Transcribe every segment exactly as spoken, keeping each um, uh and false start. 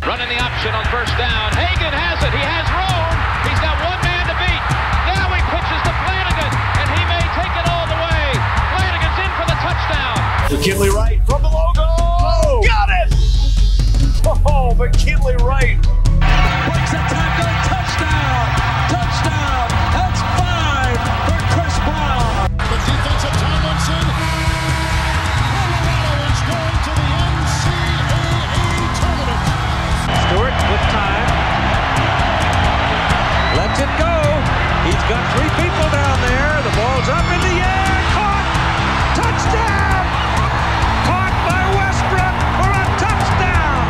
Running the option on first down. Hagan has it. He has room. He's got one man to beat. Now he pitches to Flanagan, and he may take it all the way. Flanagan's in for the touchdown. McKinley Wright from the logo. Oh, got it! Oh, McKinley Wright. Breaks a tackle. Touchdown. Touchdown. That's five for Chris Brown. The defensive Tomlinson. Colorado is going to the N C double A tournament. Stewart with time. Lets it go. He's got three people down there. The ball's up in the air. Caught. Touchdown. Caught by Westbrook for a touchdown.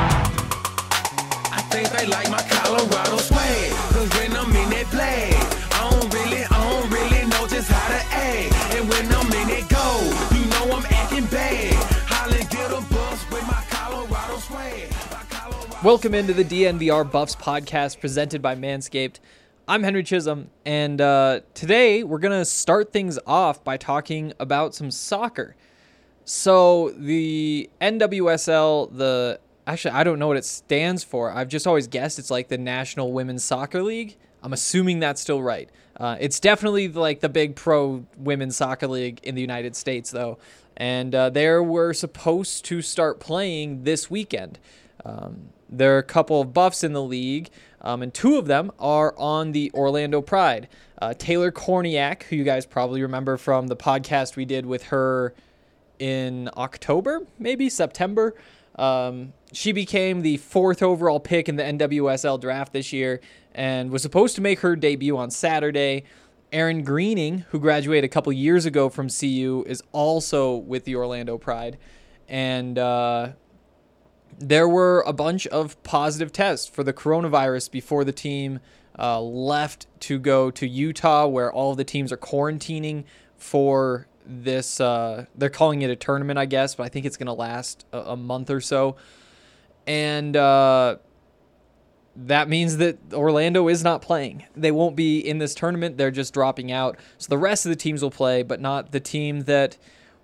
I think they like my Colorado swag. Cause when I'm in that play, I don't really, I don't really know just how to act. And when I'm in it go, you know I'm acting bad. Holland get a bus with my Colorado swag. My Colorado Welcome into the D N V R Buffs podcast presented by Manscaped. I'm Henry Chisholm, and uh, today we're going to start things off by talking about some soccer. So the N W S L, the actually, I don't know what it stands for. I've just always guessed it's like the National Women's Soccer League. I'm assuming that's still right. Uh, it's definitely like the big pro women's soccer league in the United States, though. And uh, they were supposed to start playing this weekend. Um, there are a couple of buffs in the league, um, and two of them are on the Orlando Pride. Uh, Taylor Korniak, who you guys probably remember from the podcast we did with her in October, maybe September. Um, she became the fourth overall pick in the N W S L draft this year and was supposed to make her debut on Saturday. Aaron Greening, who graduated a couple years ago from C U, is also with the Orlando Pride. And uh, there were a bunch of positive tests for the coronavirus before the team uh, left to go to Utah, where all of the teams are quarantining for this. Uh, they're calling it a tournament, I guess, but I think it's going to last a, a month or so. And uh, that means that Orlando is not playing. They won't be in this tournament. They're just dropping out. So the rest of the teams will play, but not the team that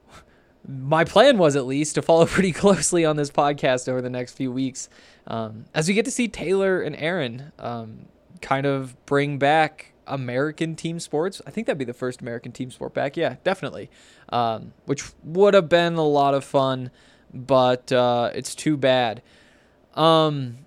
my plan was, at least, to follow pretty closely on this podcast over the next few weeks. Um, as we get to see Taylor and Aaron um, kind of bring back American team sports. I think that'd be the first American team sport back. Yeah, definitely. Um, which would have been a lot of fun, but uh, it's too bad. Um,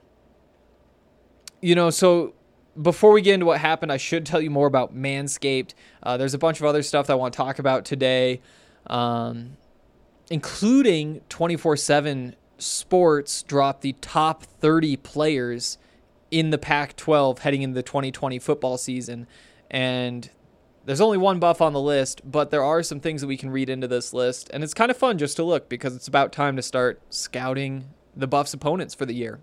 you know, so before we get into what happened, I should tell you more about Manscaped. Uh, there's a bunch of other stuff that I want to talk about today, um, including twenty-four seven Sports dropped the top thirty players in the Pac twelve heading into the twenty twenty football season. And there's only one buff on the list, but there are some things that we can read into this list. And it's kind of fun just to look, because it's about time to start scouting the Buffs' opponents for the year.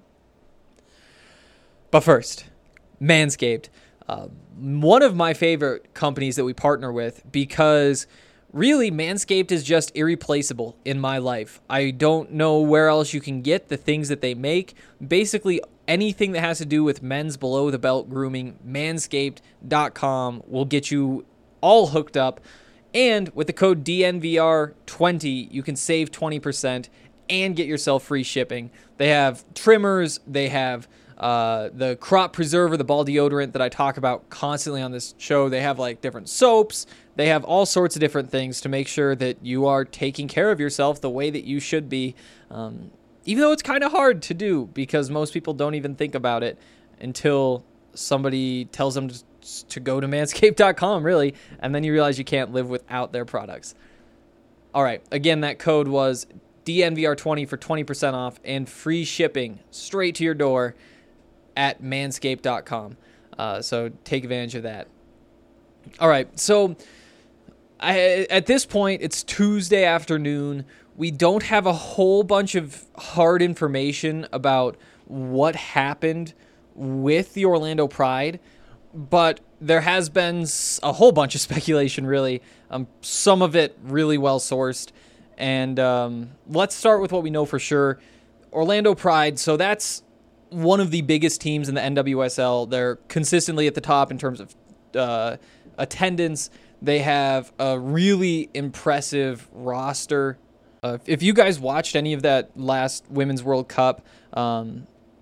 But first, Manscaped. Uh, one of my favorite companies that we partner with, because really, Manscaped is just irreplaceable in my life. I don't know where else you can get the things that they make. Basically, anything that has to do with men's below-the-belt grooming, manscaped dot com will get you all hooked up. And with the code D N V R twenty, you can save twenty percent and get yourself free shipping. They have trimmers. They have uh, the crop preserver, the ball deodorant that I talk about constantly on this show. They have like different soaps. They have all sorts of different things to make sure that you are taking care of yourself the way that you should be. Um, even though it's kind of hard to do, because most people don't even think about it until somebody tells them to, to go to manscaped dot com, really, and then you realize you can't live without their products. All right, again, that code was D N V R twenty for twenty percent off and free shipping straight to your door at manscaped dot com. Uh, so take advantage of that. All right, so I, at this point, it's Tuesday afternoon. We don't have a whole bunch of hard information about what happened with the Orlando Pride, but there has been a whole bunch of speculation, really. Um, some of it really well sourced. And um, let's start with what we know for sure. Orlando Pride, so that's one of the biggest teams in the N W S L. They're consistently at the top in terms of uh, attendance. They have a really impressive roster. Uh, if you guys watched any of that last Women's World Cup, um,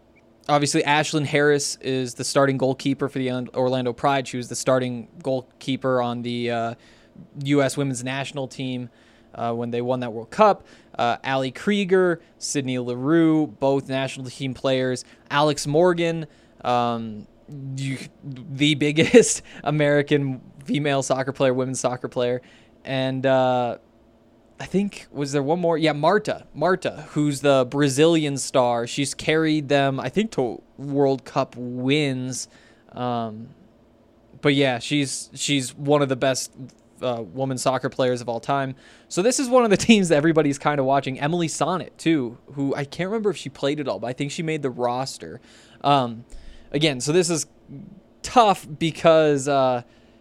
obviously, Ashlyn Harris is the starting goalkeeper for the Orlando Pride. She was the starting goalkeeper on the uh, U S women's national team uh, when they won that World Cup. Uh, Allie Krieger, Sydney Leroux, both national team players. Alex Morgan, um, you, the biggest American female soccer player, women's soccer player. And uh, I think, was there one more? Yeah, Marta. Marta, who's the Brazilian star. She's carried them, I think, to World Cup wins. Um, but yeah, she's she's one of the best uh, women soccer players of all time. So this is one of the teams that everybody's kind of watching. Emily Sonnet, too, who I can't remember if she played it all, but I think she made the roster. Um, again, so this is tough because... Uh,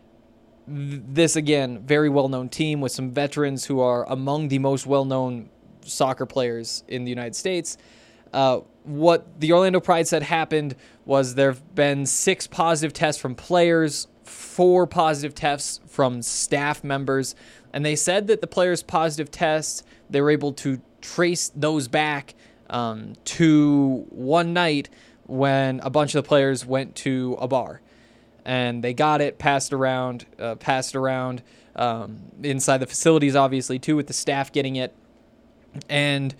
This, again, very well-known team with some veterans who are among the most well-known soccer players in the United States. Uh, what the Orlando Pride said happened was there have been six positive tests from players, four positive tests from staff members, and they said that the players' positive tests, they were able to trace those back um, to one night when a bunch of the players went to a bar. And they got it passed around, uh, passed around um, inside the facilities, obviously, too, with the staff getting it. And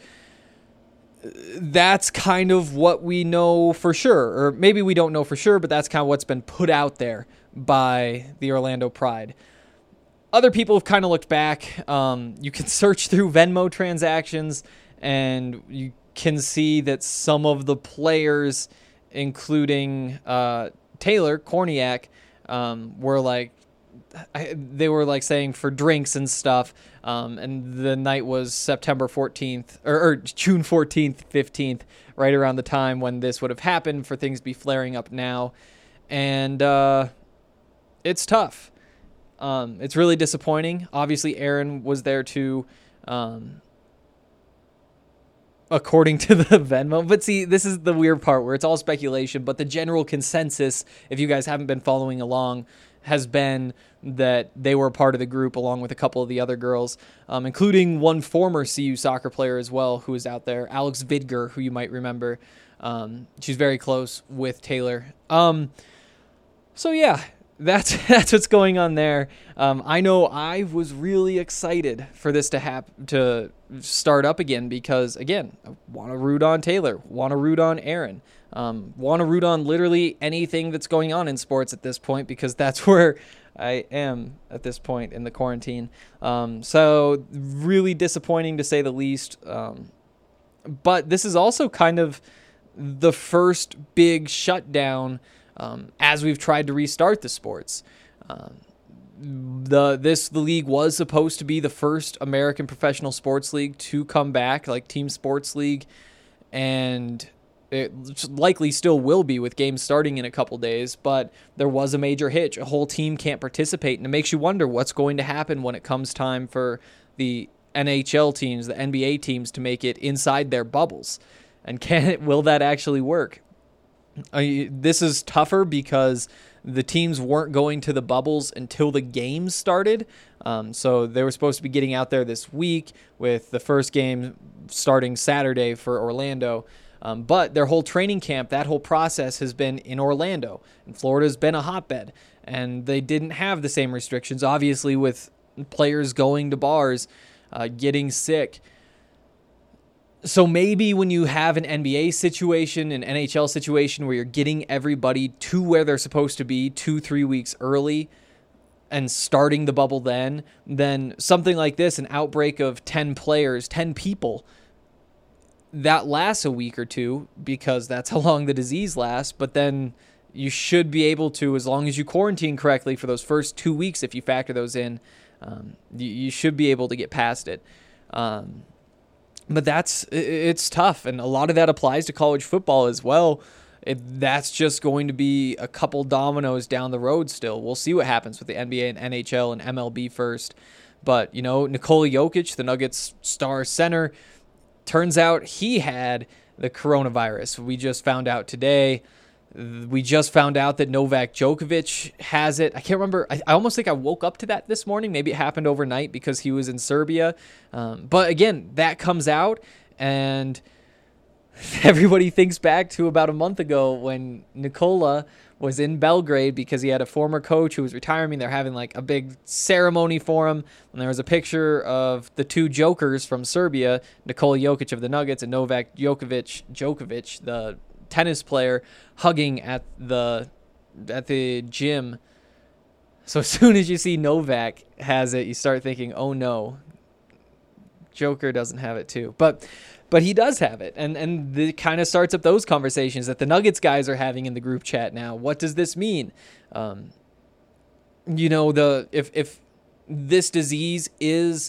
that's kind of what we know for sure. Or maybe we don't know for sure, but that's kind of what's been put out there by the Orlando Pride. Other people have kind of looked back. Um, you can search through Venmo transactions, and you can see that some of the players, including... Uh, Taylor Korniak, um, were like, I, they were like saying for drinks and stuff. Um, and the night was September fourteenth or, or June fourteenth, fifteenth, right around the time when this would have happened for things to be flaring up now. And, uh, it's tough. Um, it's really disappointing. Obviously Aaron was there too. Um, according to the Venmo. But see, this is the weird part where it's all speculation, but the general consensus, if you guys haven't been following along, has been that they were a part of the group along with a couple of the other girls, um, including one former C U soccer player as well who was out there, Alex Vidger, who you might remember. Um, she's very close with Taylor. Um, so yeah, that's that's what's going on there. Um, I know I was really excited for this to happen, to start up again, because again, I want to root on Taylor, want to root on Aaron, um, want to root on literally anything that's going on in sports at this point, because that's where I am at this point in the quarantine. Um, so really disappointing to say the least. Um, but this is also kind of the first big shutdown um, as we've tried to restart the sports. Um, the this the league was supposed to be the first American professional sports league to come back, like team sports league, and it likely still will be with games starting in a couple days, but there was a major hitch. A whole team can't participate, and it makes you wonder what's going to happen when it comes time for the N H L teams, the N B A teams, to make it inside their bubbles. And can it, will that actually work? I, this is tougher because the teams weren't going to the bubbles until the games started. Um, so they were supposed to be getting out there this week with the first game starting Saturday for Orlando. Um, but their whole training camp, that whole process has been in Orlando. And Florida's been a hotbed. And they didn't have the same restrictions, obviously, with players going to bars, uh, getting sick. So maybe when you have an N B A situation, an N H L situation where you're getting everybody to where they're supposed to be two, three weeks early and starting the bubble then, then something like this, an outbreak of ten players, ten people, that lasts a week or two because that's how long the disease lasts. But then you should be able to, as long as you quarantine correctly for those first two weeks, if you factor those in, um, you, you should be able to get past it. Um, But that's, it's tough. And a lot of that applies to college football as well. It, that's just going to be a couple dominoes down the road still. We'll see what happens with the N B A and N H L and M L B first. But, you know, Nikola Jokic, the Nuggets star center, turns out he had the coronavirus. We just found out today. We just found out that Novak Djokovic has it. I can't remember. I, I almost think I woke up to that this morning. Maybe it happened overnight because he was in Serbia. Um, but again, that comes out, and everybody thinks back to about a month ago when Nikola was in Belgrade because he had a former coach who was retiring. They're having like a big ceremony for him. And there was a picture of the two jokers from Serbia, Nikola Jokic of the Nuggets and Novak Djokovic, Djokovic, the tennis player, hugging at the at the gym. So as soon as you see Novak has it, you start thinking, oh no, Joker doesn't have it too. But but he does have it. And and it kind of starts up those conversations that the Nuggets guys are having in the group chat now. What does this mean? Um, you know, the if if this disease is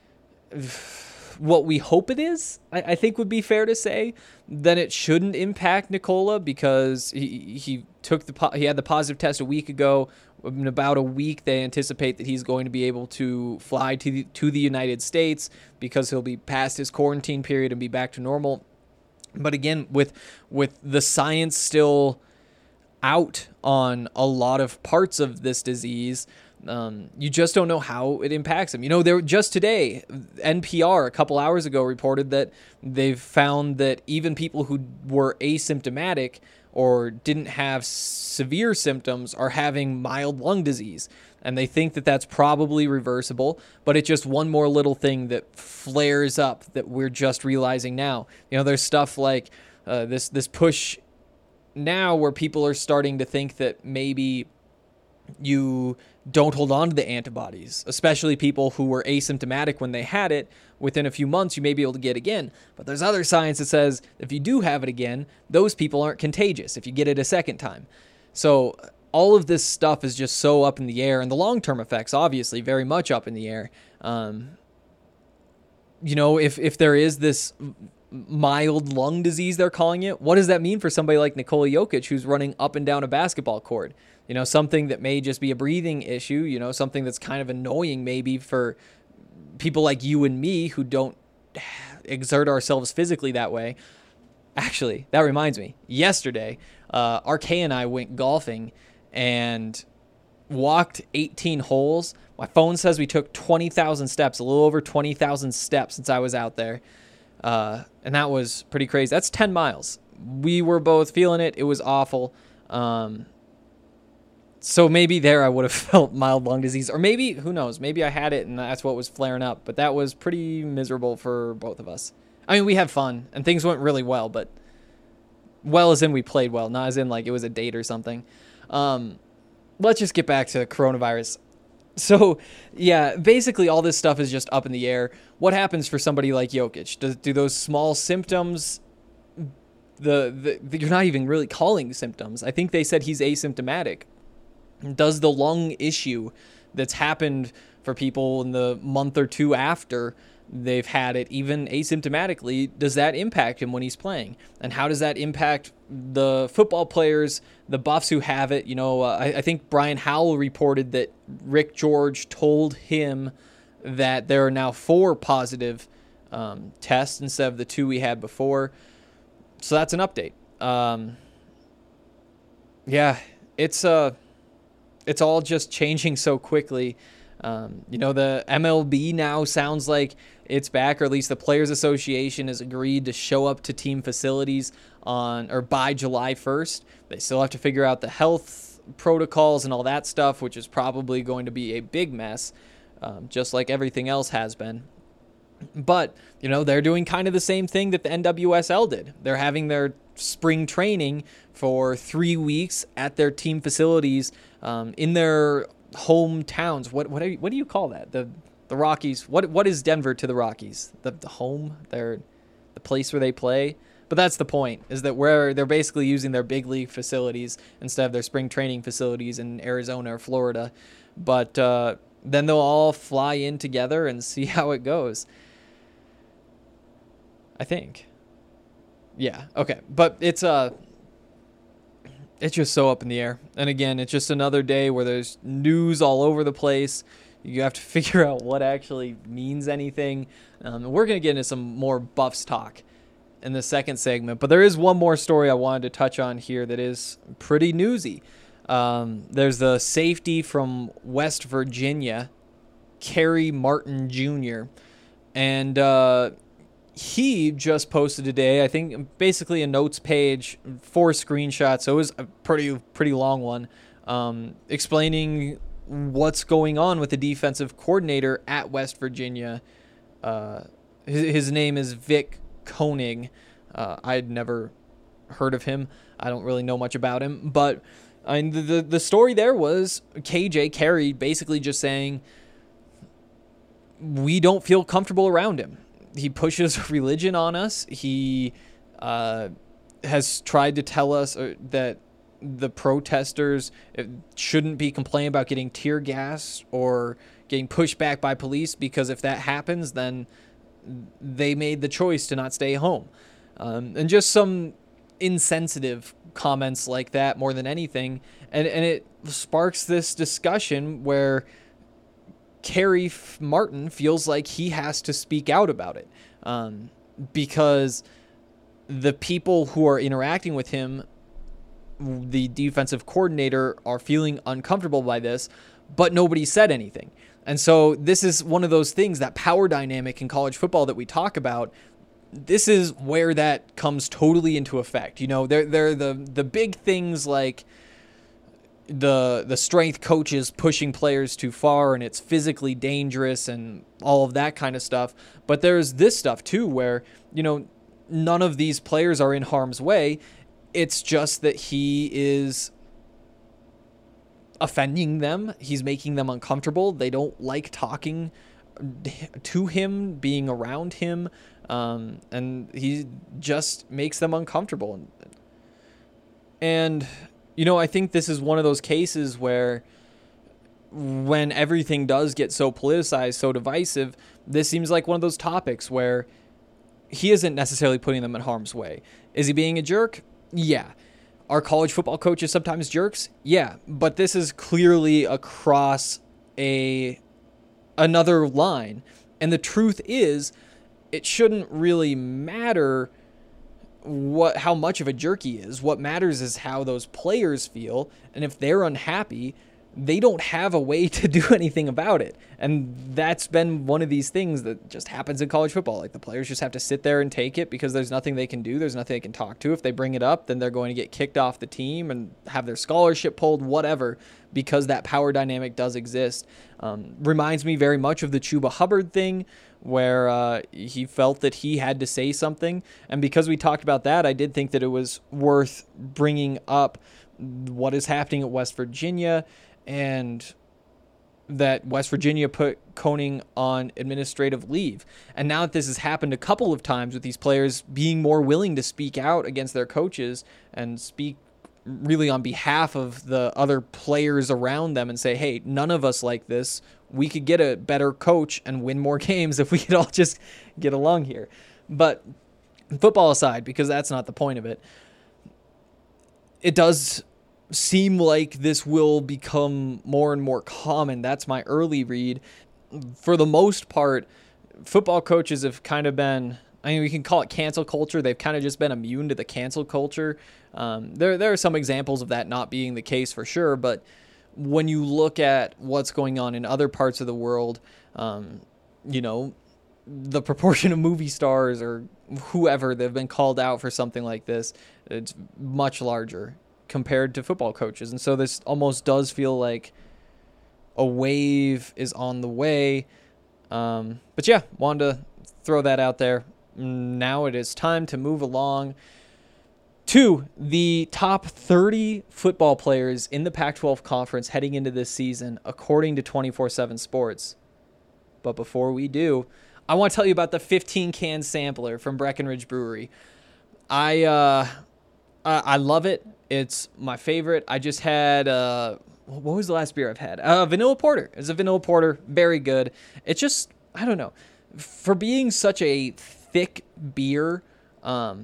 what we hope it is, I, I think would be fair to say, then it shouldn't impact Nikola because he he took the po- he had the positive test a week ago. In about a week, they anticipate that he's going to be able to fly to the, to the United States because he'll be past his quarantine period and be back to normal. But again, with with the science still out on a lot of parts of this disease, um, you just don't know how it impacts him. You know, there just today, N P R a couple hours ago reported that they've found that even people who were asymptomatic or didn't have severe symptoms are having mild lung disease. And they think that that's probably reversible, but it's just one more little thing that flares up that we're just realizing now. You know, there's stuff like uh, this this push now where people are starting to think that maybe you don't hold on to the antibodies, especially people who were asymptomatic when they had it. Within a few months, you may be able to get again. But there's other science that says if you do have it again, those people aren't contagious if you get it a second time. So all of this stuff is just so up in the air, and the long-term effects, obviously, very much up in the air. Um, you know, if if there is this mild lung disease, they're calling it, what does that mean for somebody like Nikola Jokic who's running up and down a basketball court? You know, something that may just be a breathing issue, you know, something that's kind of annoying maybe for people like you and me who don't exert ourselves physically that way. Actually, that reminds me, yesterday, uh, R K and I went golfing and walked eighteen holes. My phone says we took twenty thousand steps, a little over twenty thousand steps since I was out there. Uh, and that was pretty crazy. That's ten miles. We were both feeling it. It was awful. Um, so maybe there I would have felt mild lung disease, or maybe, who knows, maybe I had it and that's what was flaring up, but that was pretty miserable for both of us. I mean, we had fun and things went really well, but well as in we played well, not as in like it was a date or something. Um, let's just get back to coronavirus. So, yeah, basically all this stuff is just up in the air. What happens for somebody like Jokic? Do, do those small symptoms, the, the, the you're not even really calling symptoms. I think they said he's asymptomatic. Does the lung issue that's happened for people in the month or two after they've had it, even asymptomatically, does that impact him when he's playing? And how does that impact the football players, the Buffs who have it? You know, uh, I, I think Brian Howell reported that Rick George told him that there are now four positive um, tests instead of the two we had before. So that's an update. Um, yeah, it's uh, it's all just changing so quickly. Um, you know, the M L B now sounds like it's back, or at least the Players Association has agreed to show up to team facilities on or by July first. They still have to figure out the health protocols and all that stuff, which is probably going to be a big mess, um, just like everything else has been. But, you know, they're doing kind of the same thing that the N W S L did. They're having their spring training for three weeks at their team facilities um, in their hometowns. What what do you, what do you call that? The the Rockies. What what is Denver to the Rockies? The the home, their the place where they play. But that's the point, is that where they're basically using their big league facilities instead of their spring training facilities in Arizona or Florida. But uh, then they'll all fly in together and see how it goes. I think. Yeah. Okay. But it's uh it's just so up in the air. And again, it's just another day where there's news all over the place. You have to figure out what actually means anything. Um, we're going to get into some more Buffs talk in the second segment. But there is one more story I wanted to touch on here that is pretty newsy. Um, there's the safety from West Virginia, Kerry Martin Junior And uh, he just posted today, I think basically a notes page, four screenshots, so it was a pretty pretty long one, um, explaining what's going on with the defensive coordinator at West Virginia. Uh, his, his name is Vic Koenig. Uh, I'd never heard of him. I don't really know much about him, but I mean, the, the the story there was K J Carey basically just saying we don't feel comfortable around him. He pushes religion on us. He uh, has tried to tell us that the protesters shouldn't be complaining about getting tear gas or getting pushed back by police, because if that happens, then they made the choice to not stay home. Um, and just some insensitive comments like that more than anything. And, and it sparks this discussion where Kerry Martin feels like he has to speak out about it, um, because the people who are interacting with him, the defensive coordinator, are feeling uncomfortable by this, but nobody said anything. And so this is one of those things, that power dynamic in college football that we talk about. This is where that comes totally into effect. You know, they're, they're the, the big things like the the strength coaches pushing players too far and it's physically dangerous and all of that kind of stuff. But there's this stuff too where, you know, none of these players are in harm's way. It's just that he is offending them. He's making them uncomfortable. They don't like talking to him, being around him. Um, and he just makes them uncomfortable. And, you know, I think this is one of those cases where when everything does get so politicized, so divisive, this seems like one of those topics where he isn't necessarily putting them in harm's way. Is he being a jerk? Yeah. Are college football coaches sometimes jerks? Yeah. But this is clearly across a another line. And the truth is, it shouldn't really matter what how much of a jerk he is. What matters is how those players feel. And if they're unhappy, they don't have a way to do anything about it. And that's been one of these things that just happens in college football. Like, the players just have to sit there and take it because there's nothing they can do. There's nothing they can talk to. If they bring it up, then they're going to get kicked off the team and have their scholarship pulled, whatever, because that power dynamic does exist. Um, reminds me very much of the Chuba Hubbard thing, where uh, he felt that he had to say something. And because we talked about that, I did think that it was worth bringing up what is happening at West Virginia, and that West Virginia put Koenig on administrative leave. And now that this has happened a couple of times with these players being more willing to speak out against their coaches and speak really on behalf of the other players around them and say, hey, none of us like this. We could get a better coach and win more games if we could all just get along here. But football aside, because that's not the point of it, it does seem like this will become more and more common. That's my early read. For the most part, football coaches have kind of been, I mean, we can call it cancel culture. They've kind of just been immune to the cancel culture. Um, there, there are some examples of that not being the case for sure, but when you look at what's going on in other parts of the world, um, you know, the proportion of movie stars or whoever that have been called out for something like this, it's much larger compared to football coaches. And so this almost does feel like a wave is on the way. Um, but yeah, wanted to throw that out there. Now it is time to move along to the top thirty football players in the Pac twelve conference heading into this season, according to twenty-four seven Sports. But before we do, I want to tell you about the fifteen can sampler from Breckenridge Brewery. I, uh, I, I love it. It's my favorite. I just had, uh, what was the last beer I've had? Uh, vanilla porter. It's a vanilla porter. Very good. It's just, I don't know. For being such a thick beer, um,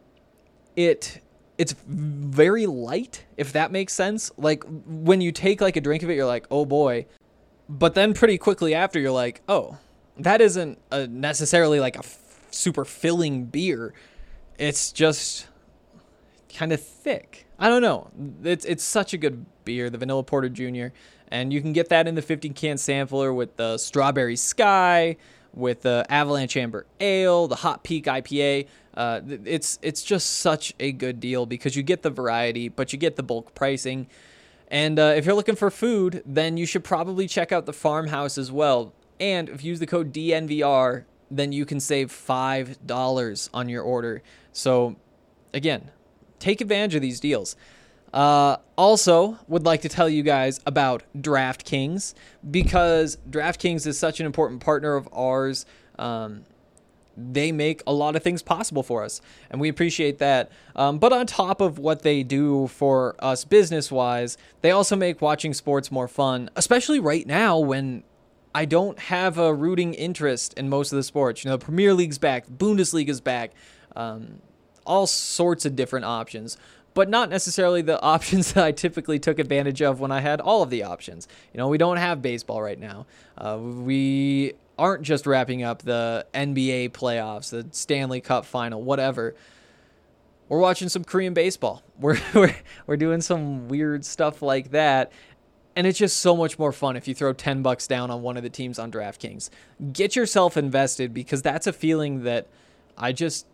it it's very light, if that makes sense. Like, when you take like a drink of it, you're like, oh boy. But then pretty quickly after, you're like, oh, that isn't a necessarily like a f- super filling beer. It's just kind of thick. I don't know. It's it's such a good beer, the Vanilla Porter Junior And you can get that in the fifteen can sampler with the Strawberry Sky, with the Avalanche Amber Ale, the Hot Peak I P A. Uh, it's it's just such a good deal because you get the variety, but you get the bulk pricing. And uh, if you're looking for food, then you should probably check out the Farmhouse as well. And if you use the code D N V R, then you can save five dollars on your order. So, again, take advantage of these deals. Uh, also, would like to tell you guys about DraftKings, because DraftKings is such an important partner of ours. Um, they make a lot of things possible for us, and we appreciate that. Um, but on top of what they do for us business-wise, they also make watching sports more fun, especially right now when I don't have a rooting interest in most of the sports. You know, Premier League's back, Bundesliga's back, um, all sorts of different options, but not necessarily the options that I typically took advantage of when I had all of the options. You know, we don't have baseball right now. Uh, we aren't just wrapping up the N B A playoffs, the Stanley Cup final, whatever. We're watching some Korean baseball. We're we're we're doing some weird stuff like that. And it's just so much more fun if you throw ten bucks down on one of the teams on DraftKings. Get yourself invested, because that's a feeling that I just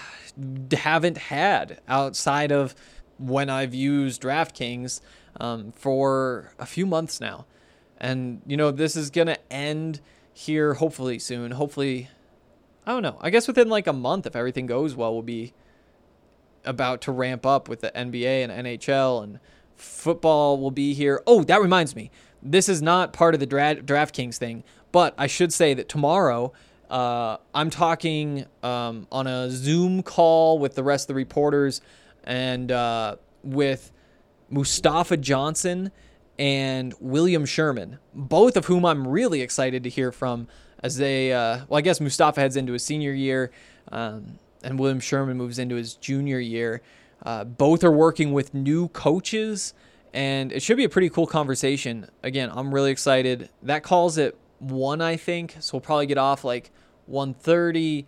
haven't had outside of when I've used DraftKings um, for a few months now. And, you know, this is going to end here hopefully soon. Hopefully, I don't know. I guess within like a month, if everything goes well, we'll be about to ramp up with the N B A and N H L, and football will be here. Oh, that reminds me. This is not part of the dra- DraftKings thing, but I should say that tomorrow uh, I'm talking um, on a Zoom call with the rest of the reporters and uh, with Mustafa Johnson and William Sherman, both of whom I'm really excited to hear from as they, uh, well, I guess Mustafa heads into his senior year um, and William Sherman moves into his junior year. Uh, both are working with new coaches, and it should be a pretty cool conversation. Again, I'm really excited. That call's at one, I think, so we'll probably get off like one thirty.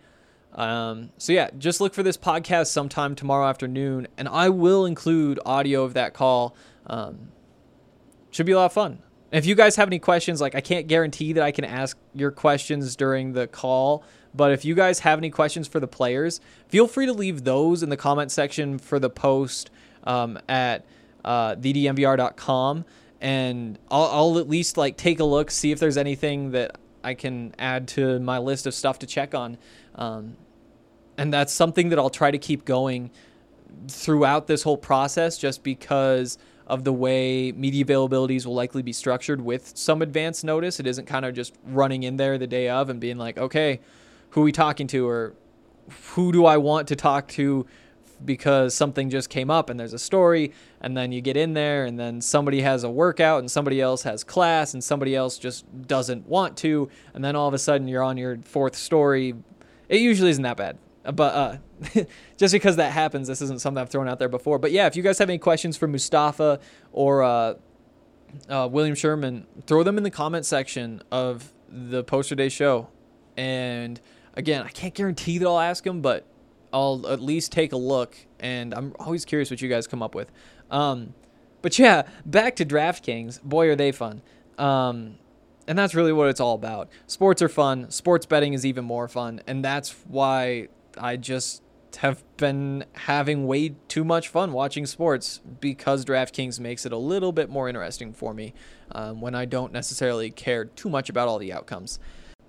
Um, so yeah, just look for this podcast sometime tomorrow afternoon, and I will include audio of that call. Um, should be a lot of fun. And if you guys have any questions, like I can't guarantee that I can ask your questions during the call, but if you guys have any questions for the players, feel free to leave those in the comment section for the post um, at uh, the d n v r dot com, and I'll, I'll at least like take a look, see if there's anything that I can add to my list of stuff to check on. Um, and that's something that I'll try to keep going throughout this whole process, just because of the way media availabilities will likely be structured with some advance notice. It isn't kind of just running in there the day of and being like, okay, who are we talking to, or who do I want to talk to because something just came up and there's a story, and then you get in there and then somebody has a workout and somebody else has class and somebody else just doesn't want to, and then all of a sudden you're on your fourth story. It usually isn't that bad, but uh, just because that happens, this isn't something I've thrown out there before. But yeah, if you guys have any questions for Mustafa or uh, uh, William Sherman, throw them in the comment section of the Poster Day show. And again, I can't guarantee that I'll ask them, but I'll at least take a look, and I'm always curious what you guys come up with. Um, but yeah, back to DraftKings. Boy, are they fun. Um, and that's really what it's all about. Sports are fun. Sports betting is even more fun, and that's why I just have been having way too much fun watching sports, because DraftKings makes it a little bit more interesting for me um, when I don't necessarily care too much about all the outcomes.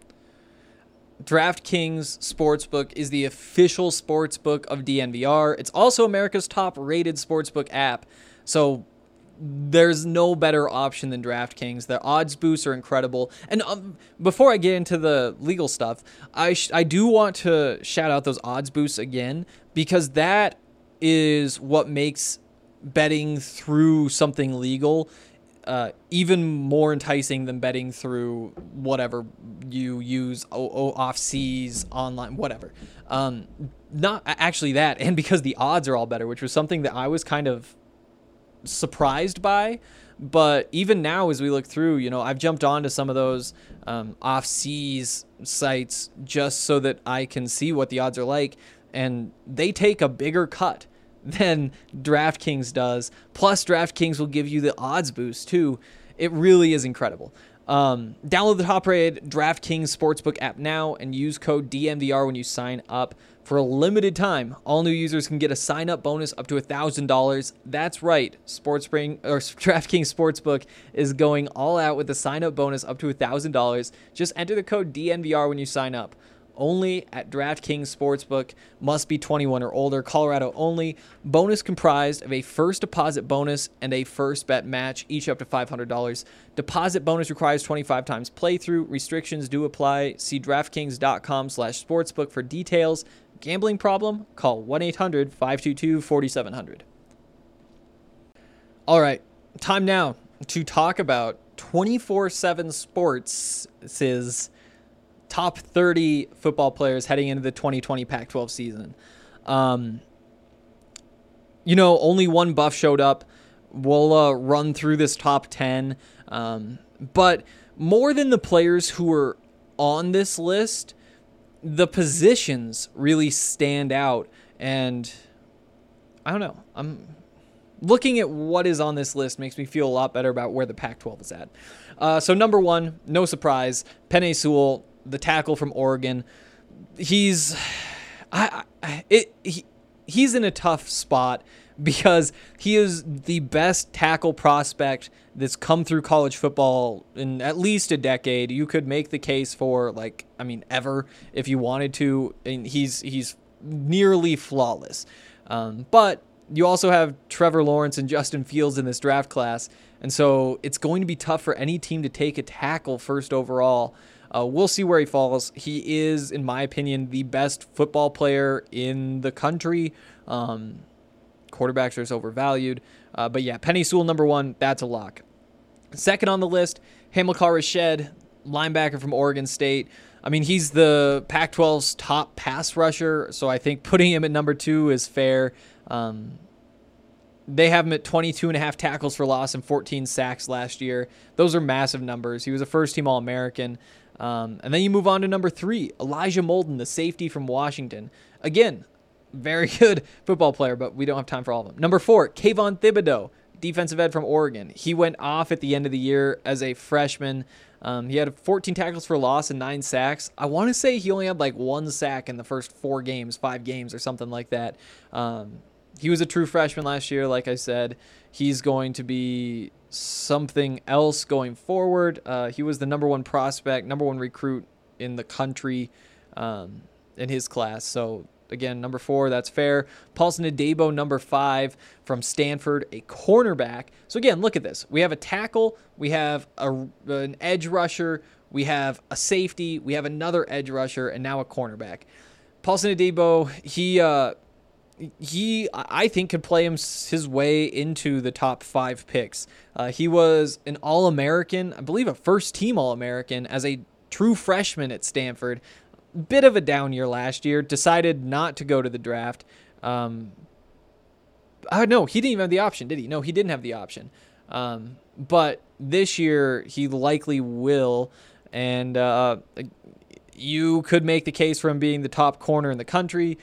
DraftKings Sportsbook is the official sportsbook of D N V R. It's also America's top-rated sportsbook app, so there's no better option than DraftKings. Their odds boosts are incredible. And um, before I get into the legal stuff, I sh- I do want to shout out those odds boosts again, because that is what makes betting through something legal Uh, even more enticing than betting through whatever you use o- o- off-seas, online, whatever. Um, not actually that, and because the odds are all better, which was something that I was kind of surprised by. But even now, as we look through, you know, I've jumped onto some of those um, off-seas sites just so that I can see what the odds are like, and they take a bigger cut than DraftKings does. Plus, DraftKings will give you the odds boost too. It really is incredible. Um, download the top-rated DraftKings Sportsbook app now and use code D N V R when you sign up. For a limited time, all new users can get a sign-up bonus up to one thousand dollars. That's right, Sportspring or DraftKings Sportsbook is going all out with a sign-up bonus up to one thousand dollars. Just enter the code D N V R when you sign up. Only at DraftKings Sportsbook. Must be twenty-one or older. Colorado only. Bonus comprised of a first deposit bonus and a first bet match, each up to five hundred dollars. Deposit bonus requires twenty-five times playthrough. Restrictions do apply. See DraftKings.com slash sportsbook for details. Gambling problem? Call one eight hundred five two two four seven zero zero. All right, time now to talk about twenty-four seven Sports' top thirty football players heading into the twenty twenty Pac twelve season. Um, you know, only one buff showed up. We'll uh, run through this top ten. Um, but more than the players who are on this list, the positions really stand out. And I don't know. I'm looking at what is on this list makes me feel a lot better about where the Pac twelve is at. Uh, so number one, no surprise, Penei Sewell, the tackle from Oregon. He's I, I it he, he's in a tough spot because he is the best tackle prospect that's come through college football in at least a decade. You could make the case for, like, I mean, ever if you wanted to. And he's he's nearly flawless. Um, but you also have Trevor Lawrence and Justin Fields in this draft class, and so it's going to be tough for any team to take a tackle first overall. Uh, we'll see where he falls. He is, in my opinion, the best football player in the country. Um, quarterbacks are so overvalued. Uh, but yeah, Penei Sewell, number one, that's a lock. Second on the list, Hamilcar Rashed, linebacker from Oregon State. I mean, he's the Pac twelve's top pass rusher, so I think putting him at number two is fair. Um, they have him at twenty-two and a half tackles for loss and fourteen sacks last year. Those are massive numbers. He was a first-team All-American. Um, and then you move on to number three, Elijah Molden, the safety from Washington. Again, very good football player, but we don't have time for all of them. Number four, Kayvon Thibodeau, defensive end from Oregon. He went off at the end of the year as a freshman. Um, he had fourteen tackles for loss and nine sacks. I want to say he only had like one sack in the first four games, five games or something like that. Um, he was a true freshman last year, like I said. He's going to be something else going forward. Uh, he was the number one prospect, number one recruit in the country um, in his class. So, again, number four, that's fair. Paulson Adebo, number five, from Stanford, a cornerback. So, again, look at this. We have a tackle. We have a, an edge rusher. We have a safety. We have another edge rusher, and now a cornerback. Paulson Adebo, he, uh, he, I think, could play him his way into the top five picks. Uh, he was an All-American, I believe a first-team All-American, as a true freshman at Stanford. Bit of a down year last year, decided not to go to the draft. Um, uh, no, he didn't even have the option, did he? No, he didn't have the option. Um, but this year, he likely will. And uh, you could make the case for him being the top corner in the country.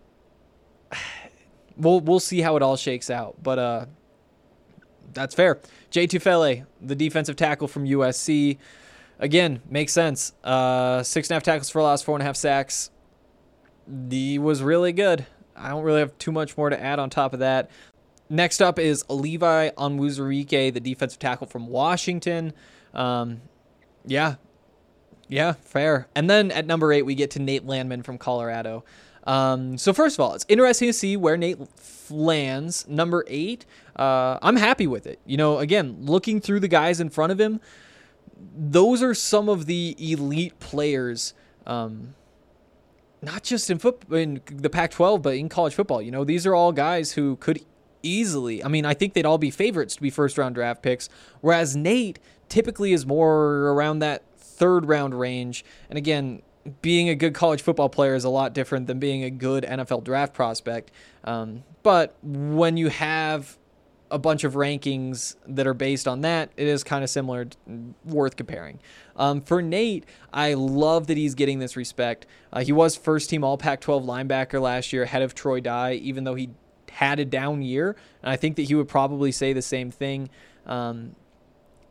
We'll we'll see how it all shakes out. But uh, that's fair. Jay Tufele, the defensive tackle from U S C. Again, makes sense. Uh, six and a half tackles for loss, four and a half sacks. He was really good. I don't really have too much more to add on top of that. Next up is Levi Onwuzurike, the defensive tackle from Washington. Um, yeah, yeah, fair. And then at number eight, we get to Nate Landman from Colorado. Um, so first of all, it's interesting to see where Nate lands. Number eight, uh, I'm happy with it. You know, again, looking through the guys in front of him, those are some of the elite players, um, not just in foot in the Pac twelve, but in college football. You know, these are all guys who could easily, I mean, I think they'd all be favorites to be first round draft picks, whereas Nate typically is more around that third round range. And again, being a good college football player is a lot different than being a good N F L draft prospect. Um, but when you have a bunch of rankings that are based on that, it is kind of similar, worth comparing. Um, for Nate, I love that he's getting this respect. Uh, he was first team all Pac twelve linebacker last year, ahead of Troy Dye, even though he had a down year. And I think that he would probably say the same thing. Um,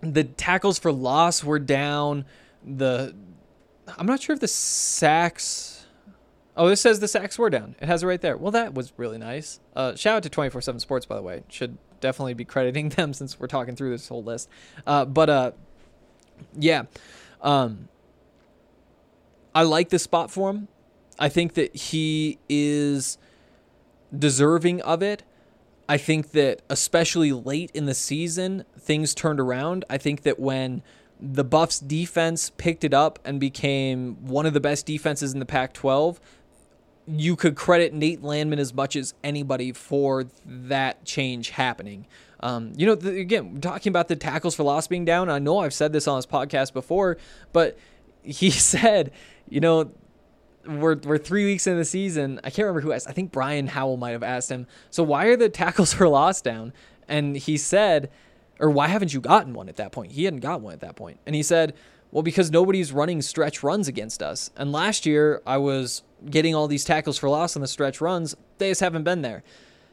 the tackles for loss were down. The I'm not sure if the sacks. Oh, this says the sacks were down. It has it right there. Well, that was really nice. Uh, shout out to twenty-four seven Sports, by the way. Should definitely be crediting them since we're talking through this whole list. Uh, but uh, yeah, um, I like this spot for him. I think that he is deserving of it. I think that especially late in the season, things turned around. I think that when the Buffs defense picked it up and became one of the best defenses in the Pac twelve, you could credit Nate Landman as much as anybody for that change happening. Um, you know, the, again, talking about the tackles for loss being down, I know I've said this on this podcast before, but he said, you know, We're we're three weeks in the season. I can't remember who asked. I think Brian Howell might have asked him, so why are the tackles for loss down? And he said, or why haven't you gotten one at that point? He hadn't gotten one at that point. And he said, well, because nobody's running stretch runs against us. And last year I was getting all these tackles for loss on the stretch runs. They just haven't been there.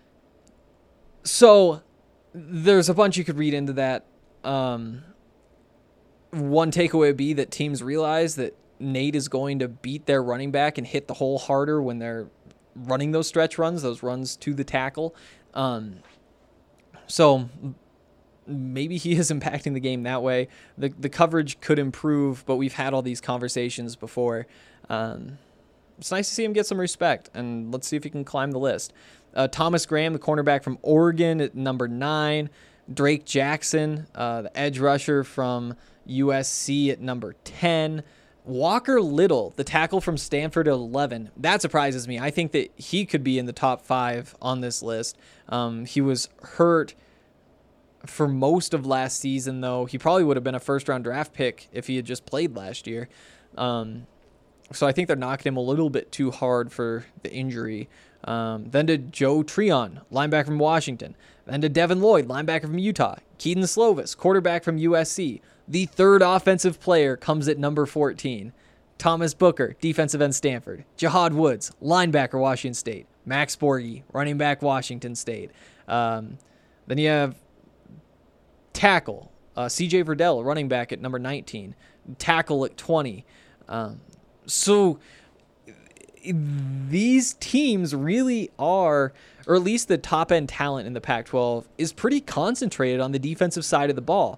So there's a bunch you could read into that. Um, one takeaway would be that teams realize that Nate is going to beat their running back and hit the hole harder when they're running those stretch runs, those runs to the tackle. Um, so maybe he is impacting the game that way. The the coverage could improve, but we've had all these conversations before. Um, it's nice to see him get some respect, and let's see if he can climb the list. Uh, Thomas Graham, the cornerback from Oregon at number nine. Drake Jackson, uh, the edge rusher from U S C at number ten. Walker Little, the tackle from Stanford at eleven. That surprises me. I think that he could be in the top five on this list. Um, he was hurt for most of last season, though. He probably would have been a first-round draft pick if he had just played last year. Um, so I think they're knocking him a little bit too hard for the injury. Um, then to Joe Treon, linebacker from Washington. Then to Devin Lloyd, linebacker from Utah. Keaton Slovis, quarterback from U S C. The third offensive player comes at number fourteen. Thomas Booker, defensive end Stanford. Jahad Woods, linebacker Washington State. Max Borghi, running back Washington State. Um, then you have tackle, uh, C J Verdell, running back at number nineteen. Tackle at twenty. Um, so these teams really are, or at least the top end talent in the Pac twelve is pretty concentrated on the defensive side of the ball.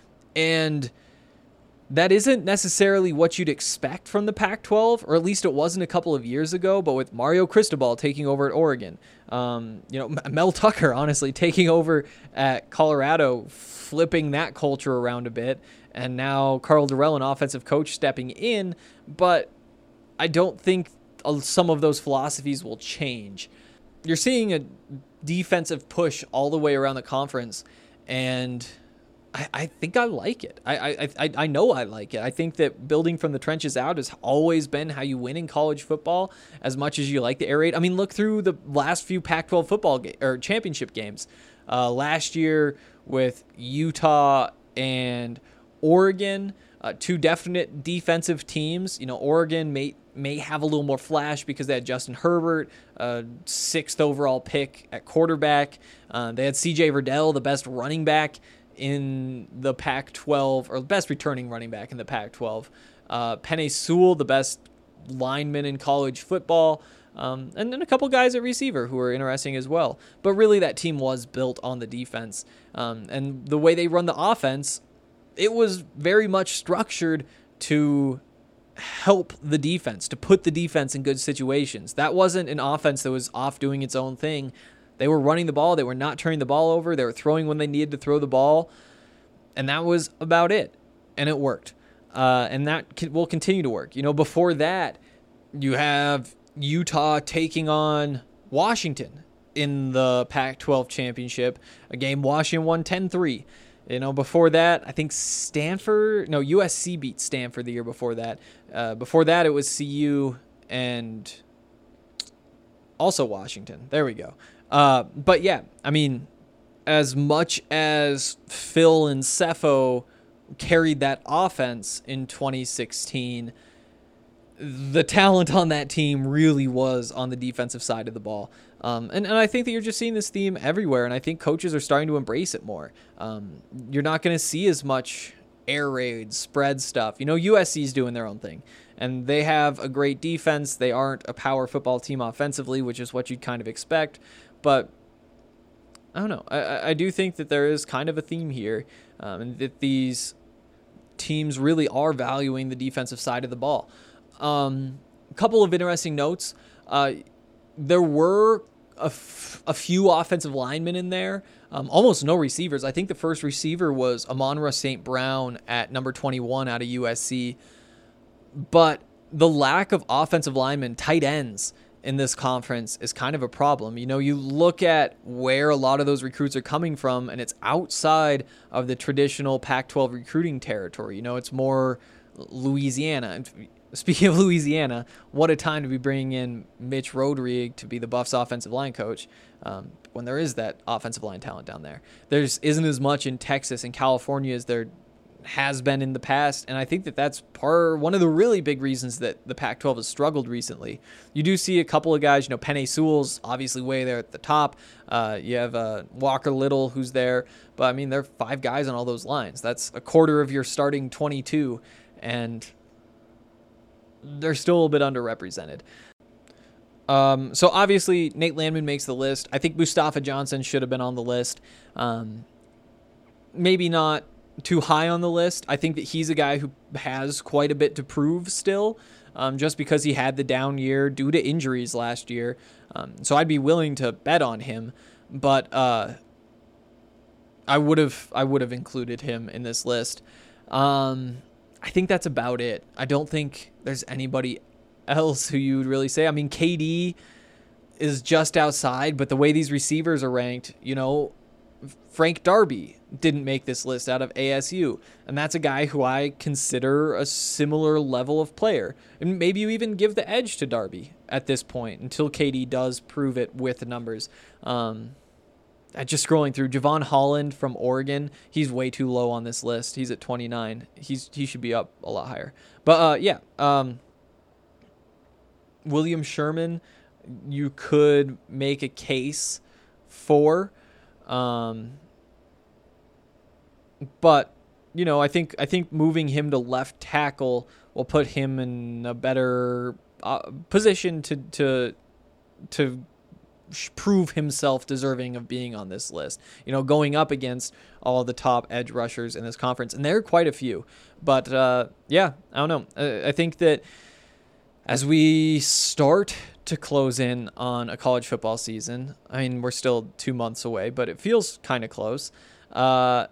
And that isn't necessarily what you'd expect from the Pac twelve, or at least it wasn't a couple of years ago, but with Mario Cristobal taking over at Oregon, um, you know, Mel Tucker, honestly, taking over at Colorado, flipping that culture around a bit, and now Carl Durrell, an offensive coach, stepping in, but I don't think some of those philosophies will change. You're seeing a defensive push all the way around the conference, and I, I think I like it. I, I I I know I like it. I think that building from the trenches out has always been how you win in college football, as much as you like the air raid. I mean, look through the last few Pac twelve football ga- or championship games. Uh, last year with Utah and Oregon, uh, two definite defensive teams. You know, Oregon may may have a little more flash because they had Justin Herbert, uh, sixth overall pick at quarterback. Uh, they had C J Verdell, the best running back in the Pac twelve, or the best returning running back in the Pac twelve. Uh, Penei Sewell, the best lineman in college football. Um, and then a couple guys at receiver who are interesting as well. But really that team was built on the defense. Um, and the way they run the offense, it was very much structured to help the defense, to put the defense in good situations. That wasn't an offense that was off doing its own thing. They were running the ball. They were not turning the ball over. They were throwing when they needed to throw the ball. And that was about it. And it worked. Uh, and that can, will continue to work. You know, before that, you have Utah taking on Washington in the Pac twelve championship, a game Washington won ten three. You know, before that, I think Stanford, no, U S C beat Stanford the year before that. Uh, before that, it was C U and also Washington. There we go. Uh, but yeah, I mean, as much as Phil and Cepho carried that offense in twenty sixteen, the talent on that team really was on the defensive side of the ball. Um, and, and I think that you're just seeing this theme everywhere, and I think coaches are starting to embrace it more. Um, you're not going to see as much air raids, spread stuff. You know, U S C's doing their own thing, and they have a great defense. They aren't a power football team offensively, which is what you'd kind of expect. But I don't know. I, I do think that there is kind of a theme here, um, and that these teams really are valuing the defensive side of the ball. Um, a couple of interesting notes. Uh, there were a, f- a few offensive linemen in there, um, almost no receivers. I think the first receiver was Amon-Ra Saint Brown at number twenty-one out of U S C. But the lack of offensive linemen, tight ends in this conference is kind of a problem. You know, you look at where a lot of those recruits are coming from, and it's outside of the traditional Pac twelve recruiting territory. You know, it's more Louisiana. And speaking of Louisiana, what a time to be bringing in Mitch Rodrigue to be the Buffs offensive line coach, um, when there is that offensive line talent down there. There's isn't as much in Texas and California as there has been in the past, and I think that that's part one of the really big reasons that the Pac twelve has struggled recently. You do see a couple of guys, you know, Penei Sewell's obviously way there at the top. Uh, you have uh, Walker Little who's there, but I mean, there are five guys on all those lines. That's a quarter of your starting twenty-two, and they're still a bit underrepresented. Um, so obviously Nate Landman makes the list. I think Mustafa Johnson should have been on the list. Um, maybe not too high on the list. I think that he's a guy who has quite a bit to prove still, um, just because he had the down year due to injuries last year. Um, so I'd be willing to bet on him, but uh, I would have I would have included him in this list. Um, I think that's about it. I don't think there's anybody else who you would really say. I mean, K D is just outside, but the way these receivers are ranked, you know, Frank Darby didn't make this list out of A S U, and that's a guy who I consider a similar level of player. And maybe you even give the edge to Darby at this point until K D does prove it with the numbers. Um, I just scrolling through, Javon Holland from Oregon, he's way too low on this list. He's at twenty-nine. He's he should be up a lot higher. But uh, yeah, um, William Sherman, you could make a case for. Um, but you know, I think I think moving him to left tackle will put him in a better uh, position to to to prove himself deserving of being on this list. You know, going up against all the top edge rushers in this conference, and there are quite a few. But uh, yeah, I don't know. I, I think that as we start to close in on a college football season, I mean, we're still two months away, but it feels kind of close. Uh,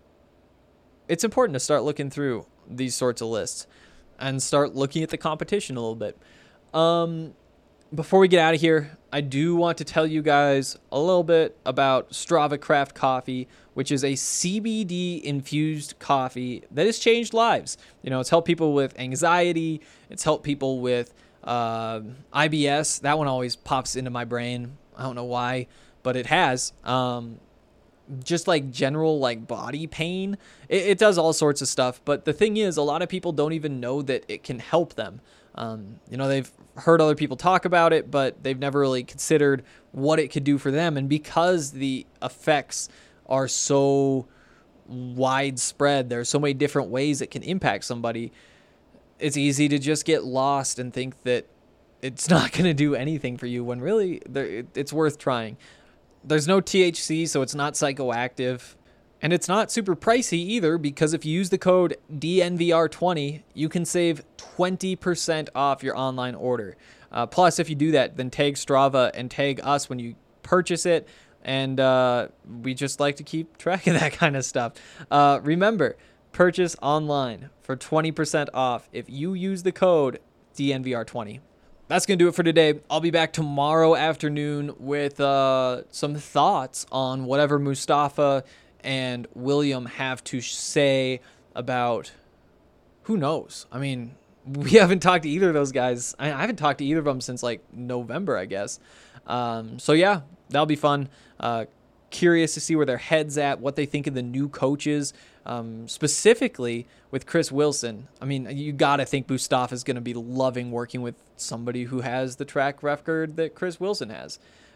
it's important to start looking through these sorts of lists and start looking at the competition a little bit. Um, before we get out of here, I do want to tell you guys a little bit about Strava Craft Coffee, which is a C B D infused coffee that has changed lives. You know, it's helped people with anxiety. It's helped people with uh, I B S. That one always pops into my brain. I don't know why, but it has. Um, just like general like body pain. It, it does all sorts of stuff. But the thing is, a lot of people don't even know that it can help them. Um, you know, they've heard other people talk about it, but they've never really considered what it could do for them. And because the effects are so widespread, there are so many different ways it can impact somebody, it's easy to just get lost and think that it's not going to do anything for you when really it's worth trying. There's no T H C, so it's not psychoactive. And it's not super pricey either, because if you use the code D N V R twenty, you can save twenty percent off your online order. Uh, plus, if you do that, then tag Strava and tag us when you purchase it. And uh, we just like to keep track of that kind of stuff. Uh, remember, purchase online for twenty percent off if you use the code D N V R twenty. That's going to do it for today. I'll be back tomorrow afternoon with uh, some thoughts on whatever Mustafa and William have to say about, who knows? I mean, we haven't talked to either of those guys. I, I haven't talked to either of them since like November, I guess. Um, so yeah, that'll be fun. Uh, curious to see where their heads at, what they think of the new coaches, um, specifically with Chris Wilson. I mean, you got to think Mustafa is going to be loving working with somebody who has the track record that Chris Wilson has.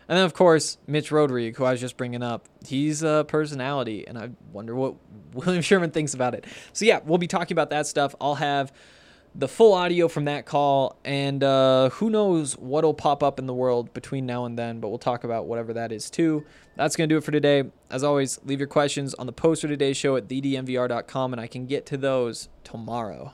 And then, of course, Mitch Rodrigue, who I was just bringing up. He's a personality, and I wonder what William Sherman thinks about it. So, yeah, we'll be talking about that stuff. I'll have the full audio from that call, and uh, who knows what'll pop up in the world between now and then, but we'll talk about whatever that is, too. That's going to do it for today. As always, leave your questions on the post for today's show at the d m v r dot com, and I can get to those tomorrow.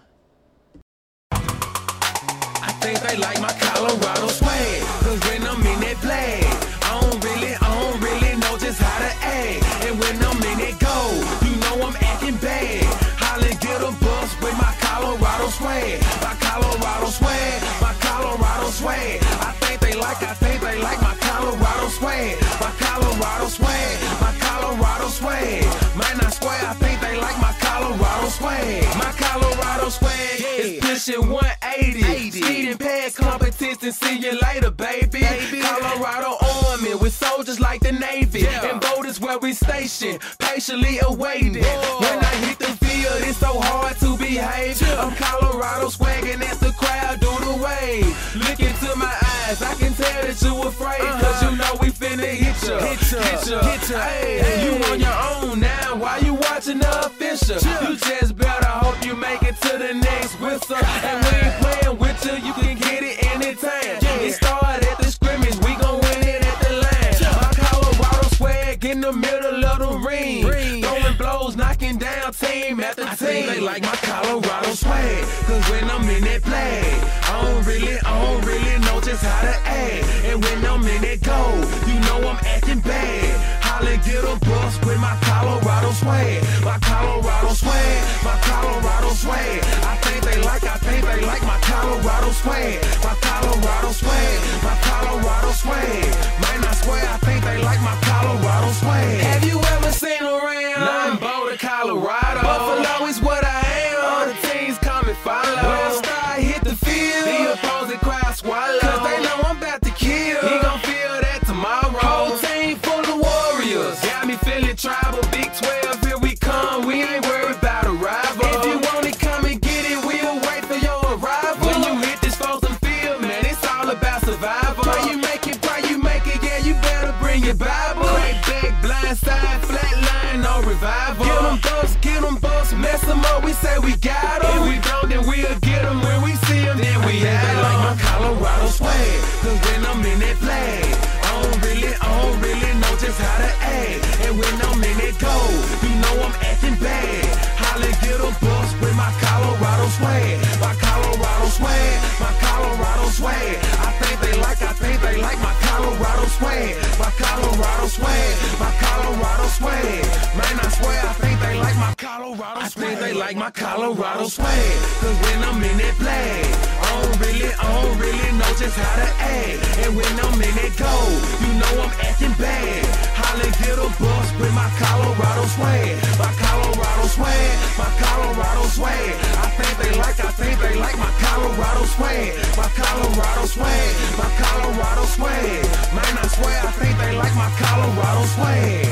I think they like my Colorado swag, cause when I'm in that flag, I don't really, I don't really know just how to act. And when I'm in that goal, you know I'm acting bad. Holla, get a bus with my Colorado swag, my Colorado swag, my Colorado swag. I think they like, I think they like my Colorado swag, my Colorado swag, my Colorado swag. Man, I swear, I think they like my Colorado swag, my Colorado swag is pushing one eighty. Speeding past competition, see you later, baby. baby. Colorado Army with soldiers like the Navy, yeah. And boat is where we station, patiently awaiting. Whoa. When I hit the field, it's so hard to behave. Yeah. I'm Colorado swagging as the crowd do the wave. Look into my eyes, I can tell that you afraid, uh-huh. Cause you know we finna hit ya, hit ya, hit ya, hit ya. Hey, hey. You on your own now, why you watching the official? Yeah. You just better hope you make it to the next whistle. And we ain't playing with you, you can get it anytime. Yeah. It started at the scrimmage, we gon' win it at the line. Yeah. My Colorado swag in the middle of the ring, ring. Throwing blows, knocking down team after I team. Think they like my Colorado swag, cause when I'm in that flag, I don't really, I don't really know just how to act. And when I'm in that goal, you know I'm acting bad. Holla, get a bus with my Colorado swag, my Colorado swag, my Colorado swag. I think they like, I think they like my Colorado swag, my Colorado swag, my Colorado swag. Man, I swear, I think they like my Colorado swag. Have you ever seen around? Nothing Boulder, Colorado. Buffalo is what I am. All the teams come and follow. When I start hit the field, the opposing crowd swallow, cause they know I'm about to kill. He gon' feel that tomorrow. Whole team full of warriors, got me feeling tribal. Big twelve, here we come. We ain't worried about a rival. If you want it, come and get it. We'll wait for your arrival. When you hit this frozen field, man, it's all about survival. Pray you make it, pray you make it. Yeah, you better bring your Bible. Right back, blind side, flat line, no revival. Get them bumps, get them bumps, mess them up. We say we got them. If we don't, then we'll get them. When we see them, then we have them. Like my Colorado swag, cause when I'm in that flag, I don't really, I don't really know just how to act. And when I'm in that goal, you know I'm acting bad. Holla, get a bus with my Colorado swag, my Colorado swag, my Colorado swag. I think they like, I think they like my Colorado swag, my Colorado swag, my Colorado swag. Man, I swear, I think they like my Colorado swag. I think they like my Colorado swag, cause when I'm in that flag, I don't really, I don't really know just how to act. And when I'm in that goal, you know I'm acting bad. Holla, get a bus with my Colorado swag, my Colorado swag, my Colorado swag. I think they like, I think they like my Colorado swag, my Colorado swag, my Colorado swag. Man, I swear, I think they like my Colorado swag.